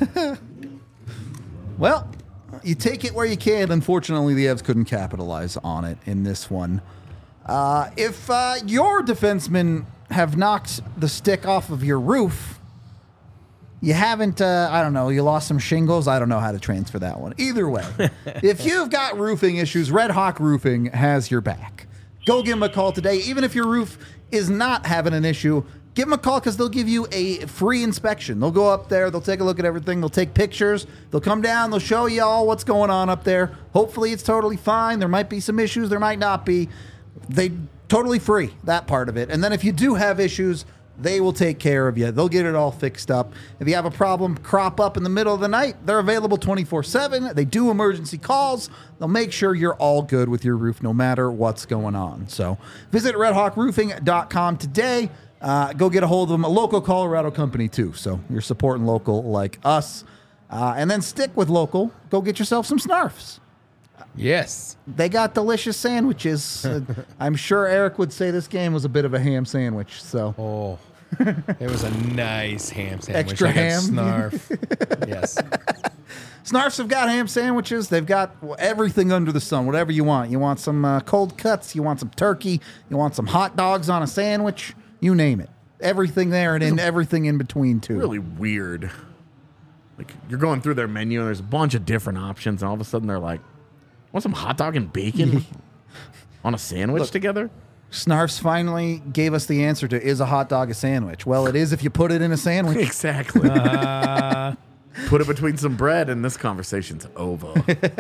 Well, you take it where you can. Unfortunately, the Evs couldn't capitalize on it in this one. Uh, if uh, your defensemen have knocked the stick off of your roof, you haven't, uh, I don't know, you lost some shingles. I don't know how to transfer that one. Either way, if you've got roofing issues, Red Hawk Roofing has your back. Go give them a call today. Even if your roof is not having an issue, give them a call because they'll give you a free inspection. They'll go up there, they'll take a look at everything, they'll take pictures, they'll come down, they'll show you all what's going on up there. Hopefully it's totally fine. There might be some issues, there might not be. They totally free, that part of it. And then if you do have issues, they will take care of you. They'll get it all fixed up. If you have a problem crop up in the middle of the night, they're available twenty-four seven. They do emergency calls. They'll make sure you're all good with your roof no matter what's going on. So visit red hawk roofing dot com today. Uh, go get a hold of them. A local Colorado company, too. So you're supporting local like us. Uh, and then stick with local. Go get yourself some Snarfs. Yes. They got delicious sandwiches. Uh, I'm sure Eric would say this game was a bit of a ham sandwich. So Oh, it was a nice ham sandwich. Extra like a ham? Snarf. Yes. Snarfs have got ham sandwiches. They've got everything under the sun, whatever you want. You want some uh, cold cuts. You want some turkey. You want some hot dogs on a sandwich. You name it. Everything there and in everything in between, too. Really weird. Like, you're going through their menu, and there's a bunch of different options, and all of a sudden they're like, want some hot dog and bacon on a sandwich Look. together? Snarfs finally gave us the answer to is a hot dog a sandwich? Well, it is if you put it in a sandwich. Exactly. Uh, Put it between some bread, and this conversation's over.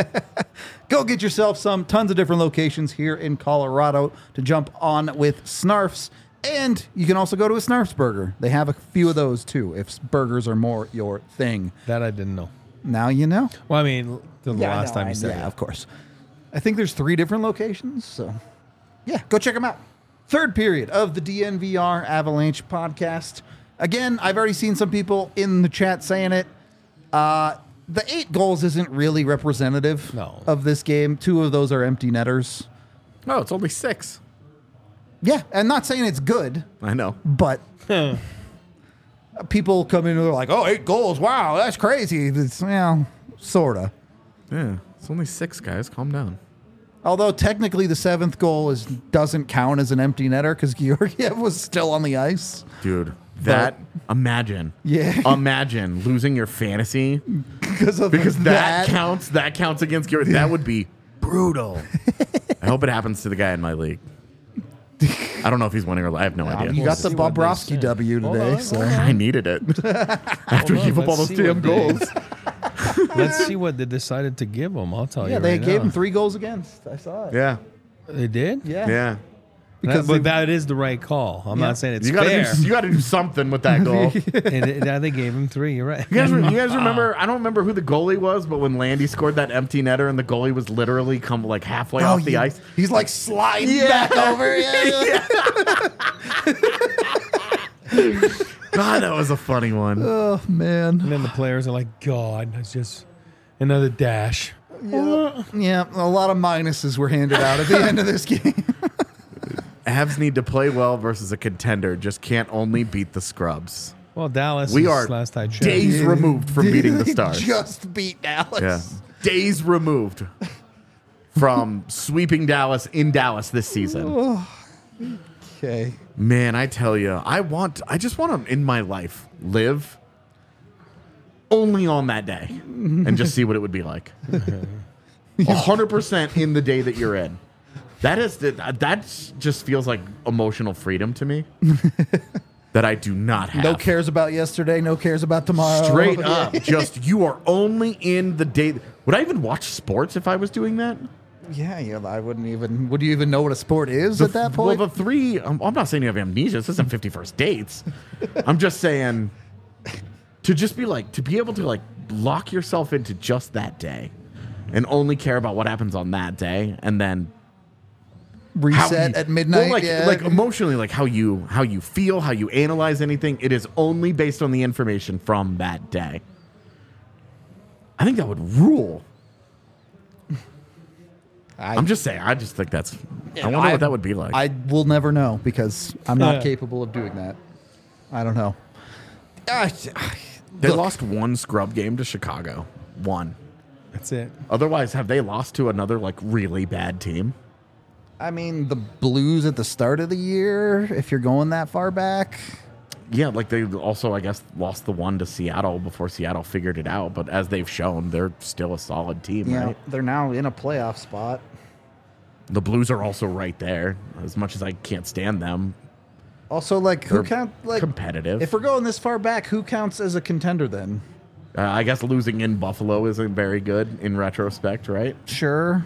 Go get yourself some. Tons of different locations here in Colorado to jump on with Snarfs. And you can also go to a Snarfs burger. They have a few of those too, if burgers are more your thing. that I didn't know. Now you know. Well, I mean, the Yeah, last no, time I- you said yeah, it. of course. I think there's three different locations, so yeah, go check them out. Third period of the D N V R Avalanche podcast. Again, I've already seen some people in the chat saying it. Uh, the eight goals isn't really representative No. of this game. Two of those are empty netters. Oh, it's only six. Yeah, I'm not saying it's good, I know. but people come in and they're like, "Oh, eight goals! Wow, that's crazy." It's, well, sorta. Yeah, it's only six, guys. Calm down. Although technically the seventh goal is doesn't count as an empty netter because Georgiev was still on the ice. Dude, that, imagine. Yeah. Imagine losing your fantasy Because of because that, that. counts. That counts against Gary. That would be brutal. I hope it happens to the guy in my league. I don't know if he's winning or I have no idea. You got the see what they Bobrovsky say. W Hold today, on, so hold I needed it after we on, gave up all let's those see damn what they- goals. Let's see what they decided to give him. I'll tell yeah, you. they right gave now. him three goals against. I saw it. Yeah, They did? Yeah, yeah. Because That- but they- that is the right call. I'm Yeah. not saying it's You gotta fair. do. You gotta do something with that goal. You and it, yeah, they gave him three. You're right. guys, re- you guys remember? I don't remember who the goalie was, but when Landy scored that empty netter and the goalie was literally come like halfway off the he- ice. He's like sliding Yeah. back over. Yeah, yeah. God, that was a funny one. Oh, man. And then the players are like, God, that's just another dash. Yeah. yeah, a lot of minuses were handed out at the end of this game. Avs need to play well versus a contender. Just can't only beat the scrubs. Well, Dallas We is are last I checked. days removed from beating the Stars. Just beat Dallas. Yeah. Days removed from sweeping Dallas in Dallas this season. Okay. Man, I tell you, I want, I just want to, in my life, live only on that day and just see what it would be like. one hundred percent in the day that you're in. That is, the, that just feels like emotional freedom to me that I do not have. No cares about yesterday, no cares about tomorrow. Straight up. Just, you are only in the day. Would I even watch sports if I was doing that? Yeah, yeah, I wouldn't even. Would you even know what a sport is at that point? Well, the three, I'm, I'm not saying you have amnesia. This isn't fifty-first dates. I'm just saying to just be like, to be able to like lock yourself into just that day and only care about what happens on that day and then how Reset you- at midnight. Well, like, yeah. like emotionally, like how you how you feel, how you analyze anything. It is only based on the information from that day. I think that would rule. I, I'm just saying. I just think that's. I wonder I- what that would be like. I will never know because I'm not Yeah. capable of doing that. I don't know. Ah, they look, lost one scrub game to Chicago. One. That's it. Otherwise, have they lost to another like really bad team? I mean, the Blues at the start of the year, if you're going that far back. Yeah, like they also, I guess, lost the one to Seattle before Seattle figured it out. But as they've shown, they're still a solid team, Yeah, right? they're now in a playoff spot. The Blues are also right there. As much as I can't stand them, Also, like, who They're count like competitive. If we're going this far back, who counts as a contender then? uh, I guess losing in Buffalo isn't very good in retrospect, right? Sure.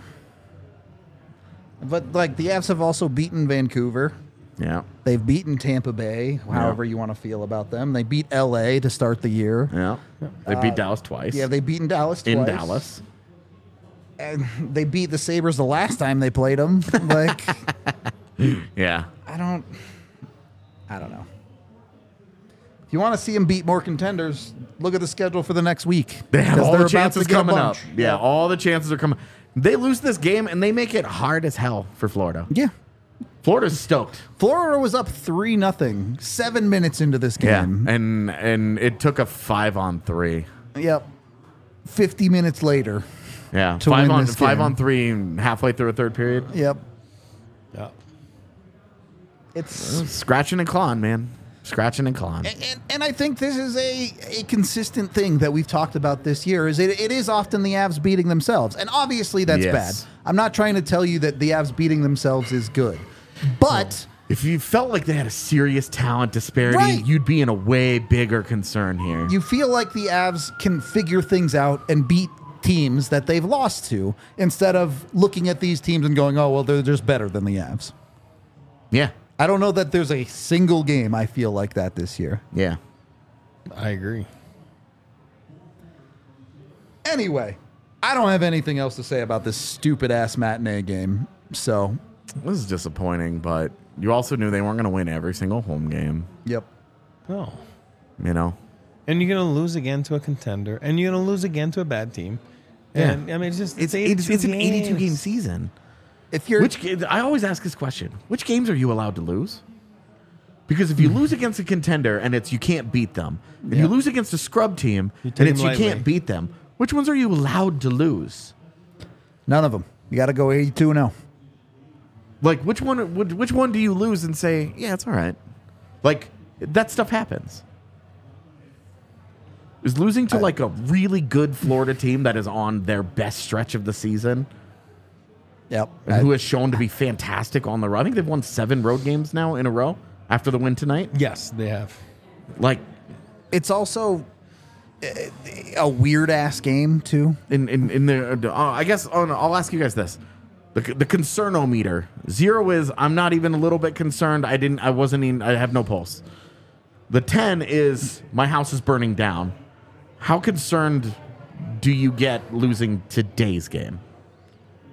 But like the Avs have also beaten Vancouver. Yeah, They've beaten Tampa Bay, however you want to feel about them. They beat L A to start the year. yeah. They beat Dallas twice. Uh, Yeah, they've beaten Dallas twice. in Dallas. And they beat the Sabres the last time they played them. Like, Yeah. I don't, I don't know. If you want to see them beat more contenders, look at the schedule for the next week. They have because all they're the about to chances get a coming up. bunch. Yeah, all the chances are coming. They lose this game and they make it hard as hell for Florida. Yeah. Florida's stoked. Florida was up three nothing seven minutes into this game. and and it took a five on three. Yep. Fifty minutes later. Yeah, To five win on this five game. on three halfway through a third period. Yep. Yeah. It's Scratching and clawing, man. Scratching and clawing. and, and, and I think this is a, a consistent thing that we've talked about this year. Is it, it is often the Avs beating themselves, and obviously that's Yes. bad. I'm not trying to tell you that the Avs beating themselves is good, but If you felt like they had a serious talent disparity, Right. you'd be in a way bigger concern here. you feel like the Avs can figure things out and beat teams that they've lost to, instead of looking at these teams and going, "Oh well, they're just better than the Avs." yeah, I don't know that there's a single game I feel like that this year. yeah. I agree. Anyway, I don't have anything else to say about this stupid ass matinee game. So, This is disappointing, but you also knew they weren't going to win every single home game. yep. No. You know, And you're going to lose again to a contender, and you're going to lose again to a bad team. And I mean, it's just it's it's, it's an eighty-two game games. season. If you're Which ga- I always ask this question: which games are you allowed to lose? Because if you lose against a contender and it's you can't beat them, and Yeah. you lose against a scrub team You and take it's them you can't lightly. beat them, which ones are you allowed to lose? none of them, you got to go eighty-two and oh. Like which one? would- Which one do you lose and say, yeah, it's all right? Like that stuff happens. Is losing to like a really good Florida team that is on their best stretch of the season Yep. and who has shown to be fantastic on the road? I think they've won seven road games now in a row after the win tonight. Yes, they have. Like It's also a, a weird ass game too. in in, in the, uh, I guess oh, no, I'll ask you guys this: the the concernometer zero is I'm not even a little bit concerned. I didn't. I wasn't even. I have no pulse. The ten is my house is burning down. How concerned do you get losing today's game?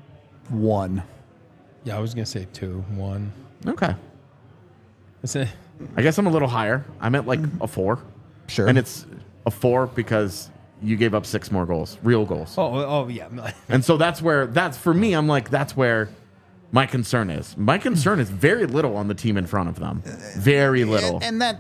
One. Yeah, I was going to say two, one. Okay. It's a, I guess I'm a little higher. I'm at like a four. Sure. And it's a four because you gave up six more goals, real goals. Oh, oh yeah. And so that's where, that's for me, I'm like, that's where my concern is. My concern is very little on the team in front of them. Very little. And, and that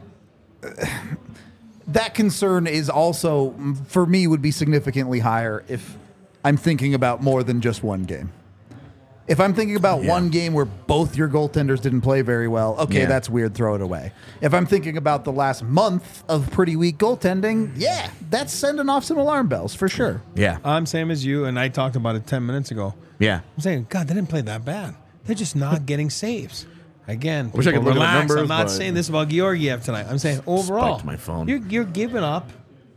that concern is also, for me, would be significantly higher if I'm thinking about more than just one game. If I'm thinking about Yeah. one game where both your goaltenders didn't play very well, okay, Yeah. that's weird, throw it away. If I'm thinking about the last month of pretty weak goaltending, yeah, that's sending off some alarm bells for sure. yeah. I'm same as you, and I talked about it ten minutes ago. Yeah. I'm saying, God, they didn't play that bad. They're just not getting saves. Again, wish I people, could look at the relax. numbers, I'm not but- saying this about Georgiev tonight. I'm saying overall, Spiked my phone. You're, you're giving up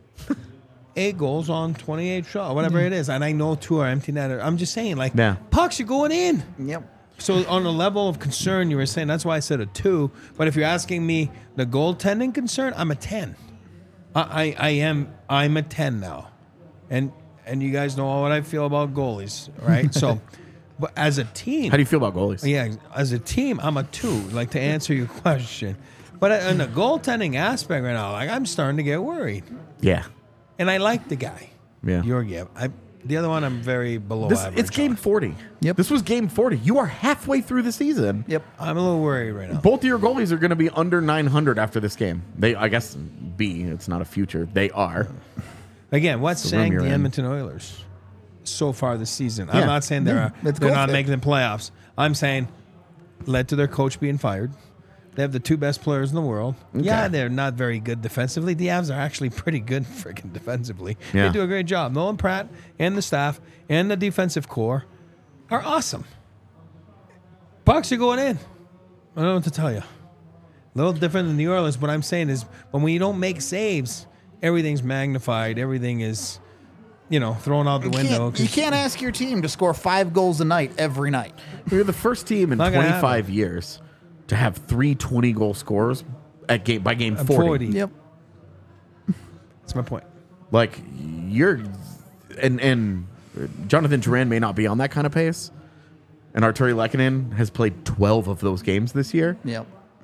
eight goals on twenty-eight shots, whatever it is. And I know two are empty netter. I'm just saying, like, Yeah. pucks are going in. Yep. So on the level of concern, you were saying, that's why I said a two. But if you're asking me the goaltending concern, I'm a ten. I, I, I am I'm a ten now, and and you guys know what I feel about goalies, right? So, but as a team, How do you feel about goalies? yeah, as a team, I'm a two. Like to answer your question, but in the goaltending aspect right now, like I'm starting to get worried, Yeah. and I like the guy, Yeah. Georgiev. I the other one I'm very below This, average. it's game on. forty. Yep. This was game forty. You are halfway through the season. Yep. I'm a little worried right now. Both of your goalies are going to be under nine hundred after this game. They, I guess, B. It's not a future. They are. Again, what's the room saying you're the in. Edmonton Oilers so far this season? Yeah. I'm not saying they're Yeah, let's they're go not for it. making the playoffs. I'm saying led to their coach being fired. They have the two best players in the world. Yeah, they're not very good defensively. The Avs are actually pretty good freaking defensively. Yeah. They do a great job. Nolan Pratt and the staff and the defensive core are awesome. Pucks are going in. I don't know what to tell you. A little different than New Orleans. What I'm saying is when you don't make saves, everything's magnified. Everything is, you know, thrown out the You window. can't, you 'cause- can't ask your team to score five goals a night every night. We're the first team in Not gonna twenty-five years to have three twenty-goal scorers at game by game I'm forty. forty. Yep. That's my point. Like you're, and and Jonathan Duran may not be on that kind of pace, and Arturi Lehkonen has played twelve of those games this year. Yep.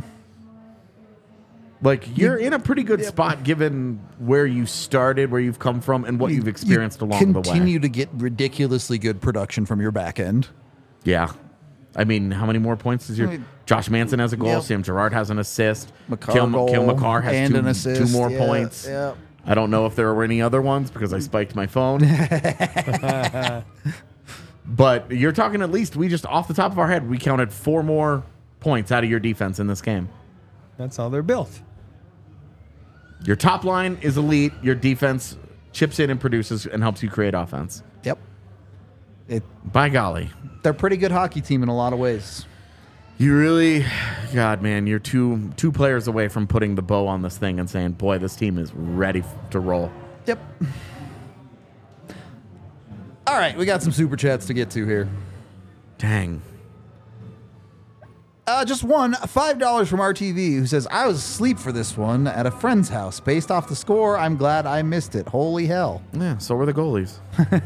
Like you're in a pretty good spot given where you started, where you've come from, and what you've experienced You along the way. Continue to get ridiculously good production from your back end. Yeah. I mean, how many more points is your I mean- Josh Manson has a goal, Yep. Sam Gerard has an assist, McCarr Kale, goal Kale McCarr has and two, an assist. two more Yeah, points. yeah. I don't know if there were any other ones because I spiked my phone. But you're talking at least, we just off the top of our head, we counted four more points out of your defense in this game. That's how they're built. Your top line is elite. Your defense chips in and produces and helps you create offense. Yep. It, By golly. they're a pretty good hockey team in a lot of ways. You really, God, man, you're two two players away from putting the bow on this thing and saying, boy, this team is ready f- to roll. Yep. All right, we got some super chats to get to here. Dang. Uh, just one, five dollars from R T V, who says, I was asleep for this one at a friend's house. Based off the score, I'm glad I missed it. Holy hell. Yeah, so were the goalies.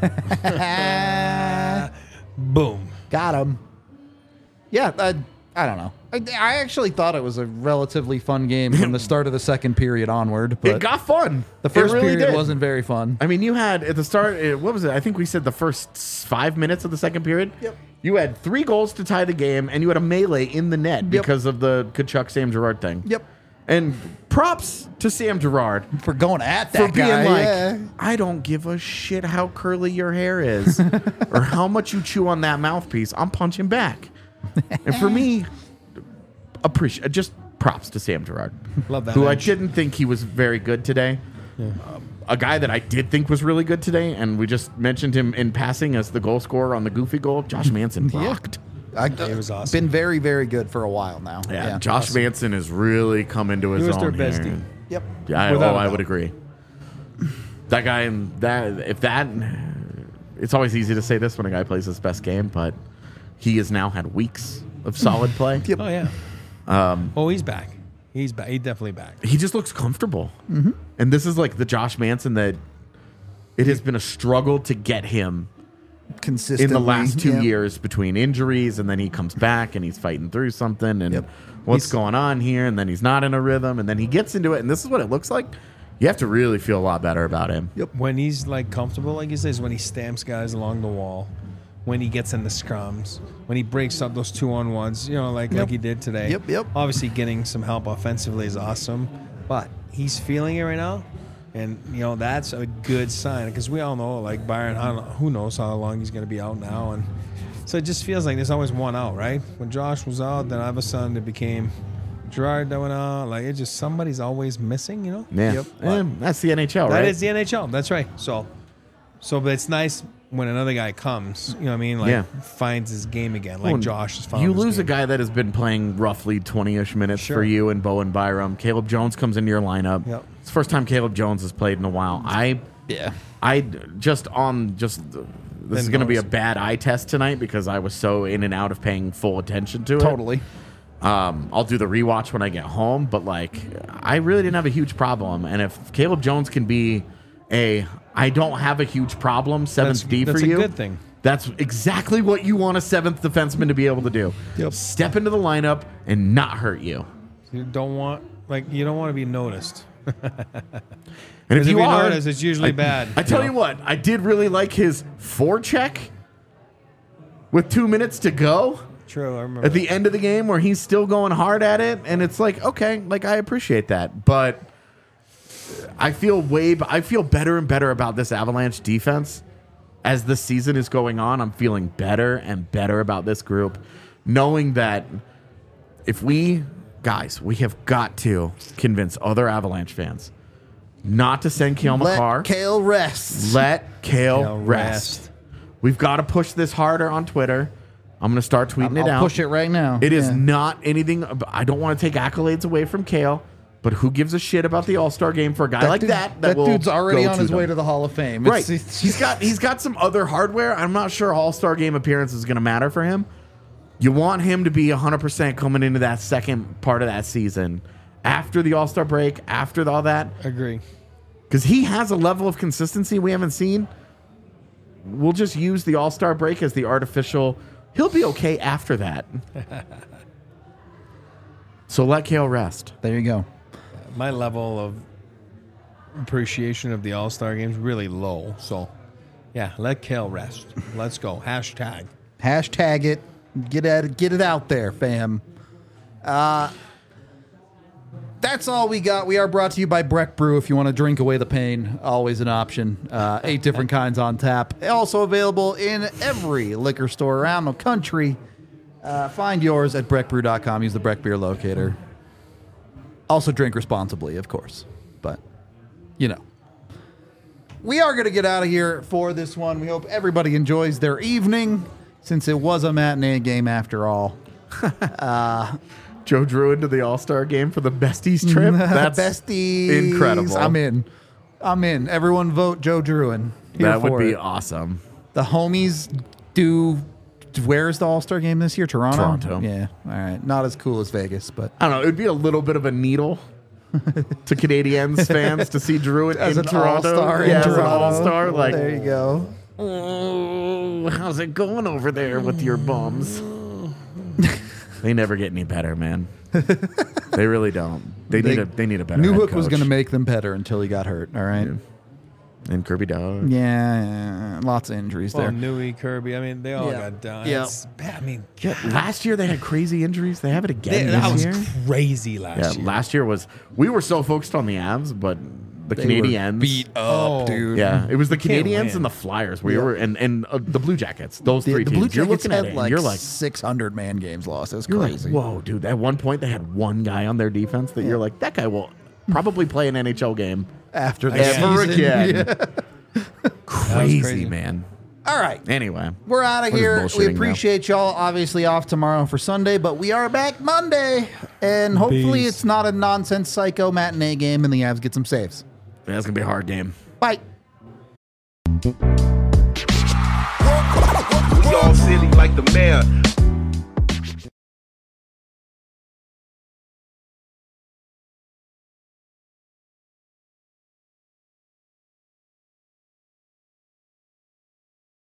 Boom. Got him. Yeah, I, I don't know. I, I actually thought it was a relatively fun game from the start of the second period onward, It but got fun. the first It really period did. wasn't very fun. I mean, you had at the start, uh, what was it? I think we said the first s- five minutes of the second period. Yep. You had three goals to tie the game, and you had a melee in the net Yep. because of the Kachuk Sam Gerard thing. Yep. And props to Sam Gerard For going at for that being guy. like, yeah. I don't give a shit how curly your hair is or how much you chew on that mouthpiece. I'm punching back. And for me, appreciate just props to Sam Gerard, Love that who I edge. didn't think he was very good today. Um, a guy that I did think was really good today, and we just mentioned him in passing as the goal scorer on the goofy goal. Josh Manson rocked. I, It was awesome. Been very, very good for a while now. Yeah, Josh Manson has really come into his He was own their best here. team. Yep. Yeah, I, oh, Without a I doubt. would agree. That guy and that if that, it's always easy to say this when a guy plays his best game, but he has now had weeks of solid play. Yep. Oh, yeah. Um, Oh, he's back. He's back. He's definitely back. he just looks comfortable, mm-hmm. and this is like the Josh Manson that it has been a struggle to get him consistently in the last two yeah. years between injuries, and then he comes back and he's fighting through something, and Yep. what's He's- going on here, and then he's not in a rhythm, and then he gets into it, and this is what it looks like. You have to really feel a lot better about him. Yep. When he's like comfortable, like he says, when he stamps guys along the wall, when he gets in the scrums, when he breaks up those two on ones, you know, like Yep. like he did today. Yep, yep. Obviously, getting some help offensively is awesome, but he's feeling it right now, and you know that's a good sign because we all know, like Byron, I don't know, who knows how long he's going to be out now, and so it just feels like there's always one out, right? When Josh was out, then all of a sudden it became Gerard that went out. Like it just somebody's always missing, you know. Yeah, Yep. and that's the N H L, That right? is the N H L. That's right. So, so but it's nice when another guy comes. You know what I mean? Like Yeah. finds his game again, like Well, Josh has found. You his lose a game. guy that has been playing roughly twenty-ish minutes Sure. for you and Bowen Byram. Caleb Jones comes into your lineup. Yep. It's the first time Caleb Jones has played in a while. I, Yeah. I just on just uh, this is Then going to be a notice. bad eye test tonight because I was so in and out of paying full attention to it. Totally. Um, I'll do the rewatch when I get home, but like I really didn't have a huge problem. And if Caleb Jones can be a I don't have a huge problem seventh That's- D that's for a you, good thing. that's exactly what you want a seventh defenseman to be able to do. Yep. Step into the lineup and not hurt you. You don't want like you don't want to be noticed. And if Because if you you are, notice, it's usually I, bad. I tell know? you what, I did really like his forecheck with two minutes to go True, I remember. at the end of the game where he's still going hard at it, and it's like, okay, like I appreciate that, but I feel way, I feel better and better about this Avalanche defense as the season is going on. I'm feeling better and better about this group, knowing that if we, guys, we have got to convince other Avalanche fans not to send Kale Let McCarr. Kale rest. Let Kale, Kale rest. rest. We've got to push this harder on Twitter. I'm going to start tweeting I'll it out. push it right now. It is Yeah. not anything. I don't want to take accolades away from Kale, but who gives a shit about the All Star game for a guy like dude- that? That, will dude's already go on to his them. way to the Hall of Fame. Right. It's, it's, he's got he's got some other hardware. I'm not sure All Star game appearance is going to matter for him. You want him to be one hundred percent coming into that second part of that season after the All Star break, after all that, Agree. because he has a level of consistency we haven't seen. We'll just use the All Star break as the artificial. He'll be okay after that. So let Kale rest. there you go. My level of appreciation of the All Star games really low. So, yeah, let Kale rest. Let's go. Hashtag. Hashtag it. Get at it. Get it out there, fam. Uh, that's all we got. We are brought to you by Breck Brew. If you want to drink away the pain, always an option. Uh, eight different kinds on tap. Also available in every liquor store around the country. Uh, find yours at breck brew dot com. Use the Breck Beer Locator. Also drink responsibly, of course. But, you know. We are going to get out of here for this one. We hope everybody enjoys their evening, since it was a matinee game after all. Joe Drew into the All Star game for the besties trip. That's Besties. incredible. I'm in. I'm in. Everyone vote Joe Druin. Here That would for be it. awesome. The homies do. Where's the All Star game this year? Toronto? Toronto. Yeah. All right. Not as cool as Vegas, but I don't know. It would be a little bit of a needle to Canadiens fans to see Drew in, as in an Toronto. all-star in yeah, as an Toronto. all-star. Like, there you go. oh, how's it going over there with your bums? They never get any better, man. They really don't. They, They- need a they need a better. Newhook head was coach. going to make them better until he got hurt. All right. Yeah. And Kirby Dog. Yeah. yeah. Lots of injuries Well, there. Newey, Kirby. I mean, they all Yeah. got done. Yeah. It's bad. I mean, Yeah, last year they had crazy injuries. They have it again they- this that was year. crazy last Yeah, year. last year was we were so focused on the Avs, but the They were Canadiens beat up, Oh. dude. Yeah, it was the can't Canadiens win. and the Flyers. We Yeah. were and and uh, the Blue Jackets. Those The, three the teams. Blue You're Jackets looking at had it, like, and you're like, six hundred man games lost. That's you're crazy. like, whoa, dude. At one point, they had one guy on their defense that you're like, that guy will probably play an N H L game After the ever season. again. Yeah. Crazy, crazy. man. All right. Anyway, We're out of We're here. just We bullshitting now. appreciate y'all. Obviously off tomorrow for Sunday, but we are back Monday. And hopefully Peace. it's not a nonsense psycho matinee game and the Avs get some saves. that's gonna be a hard game. Bye. Y'all silly like the mayor.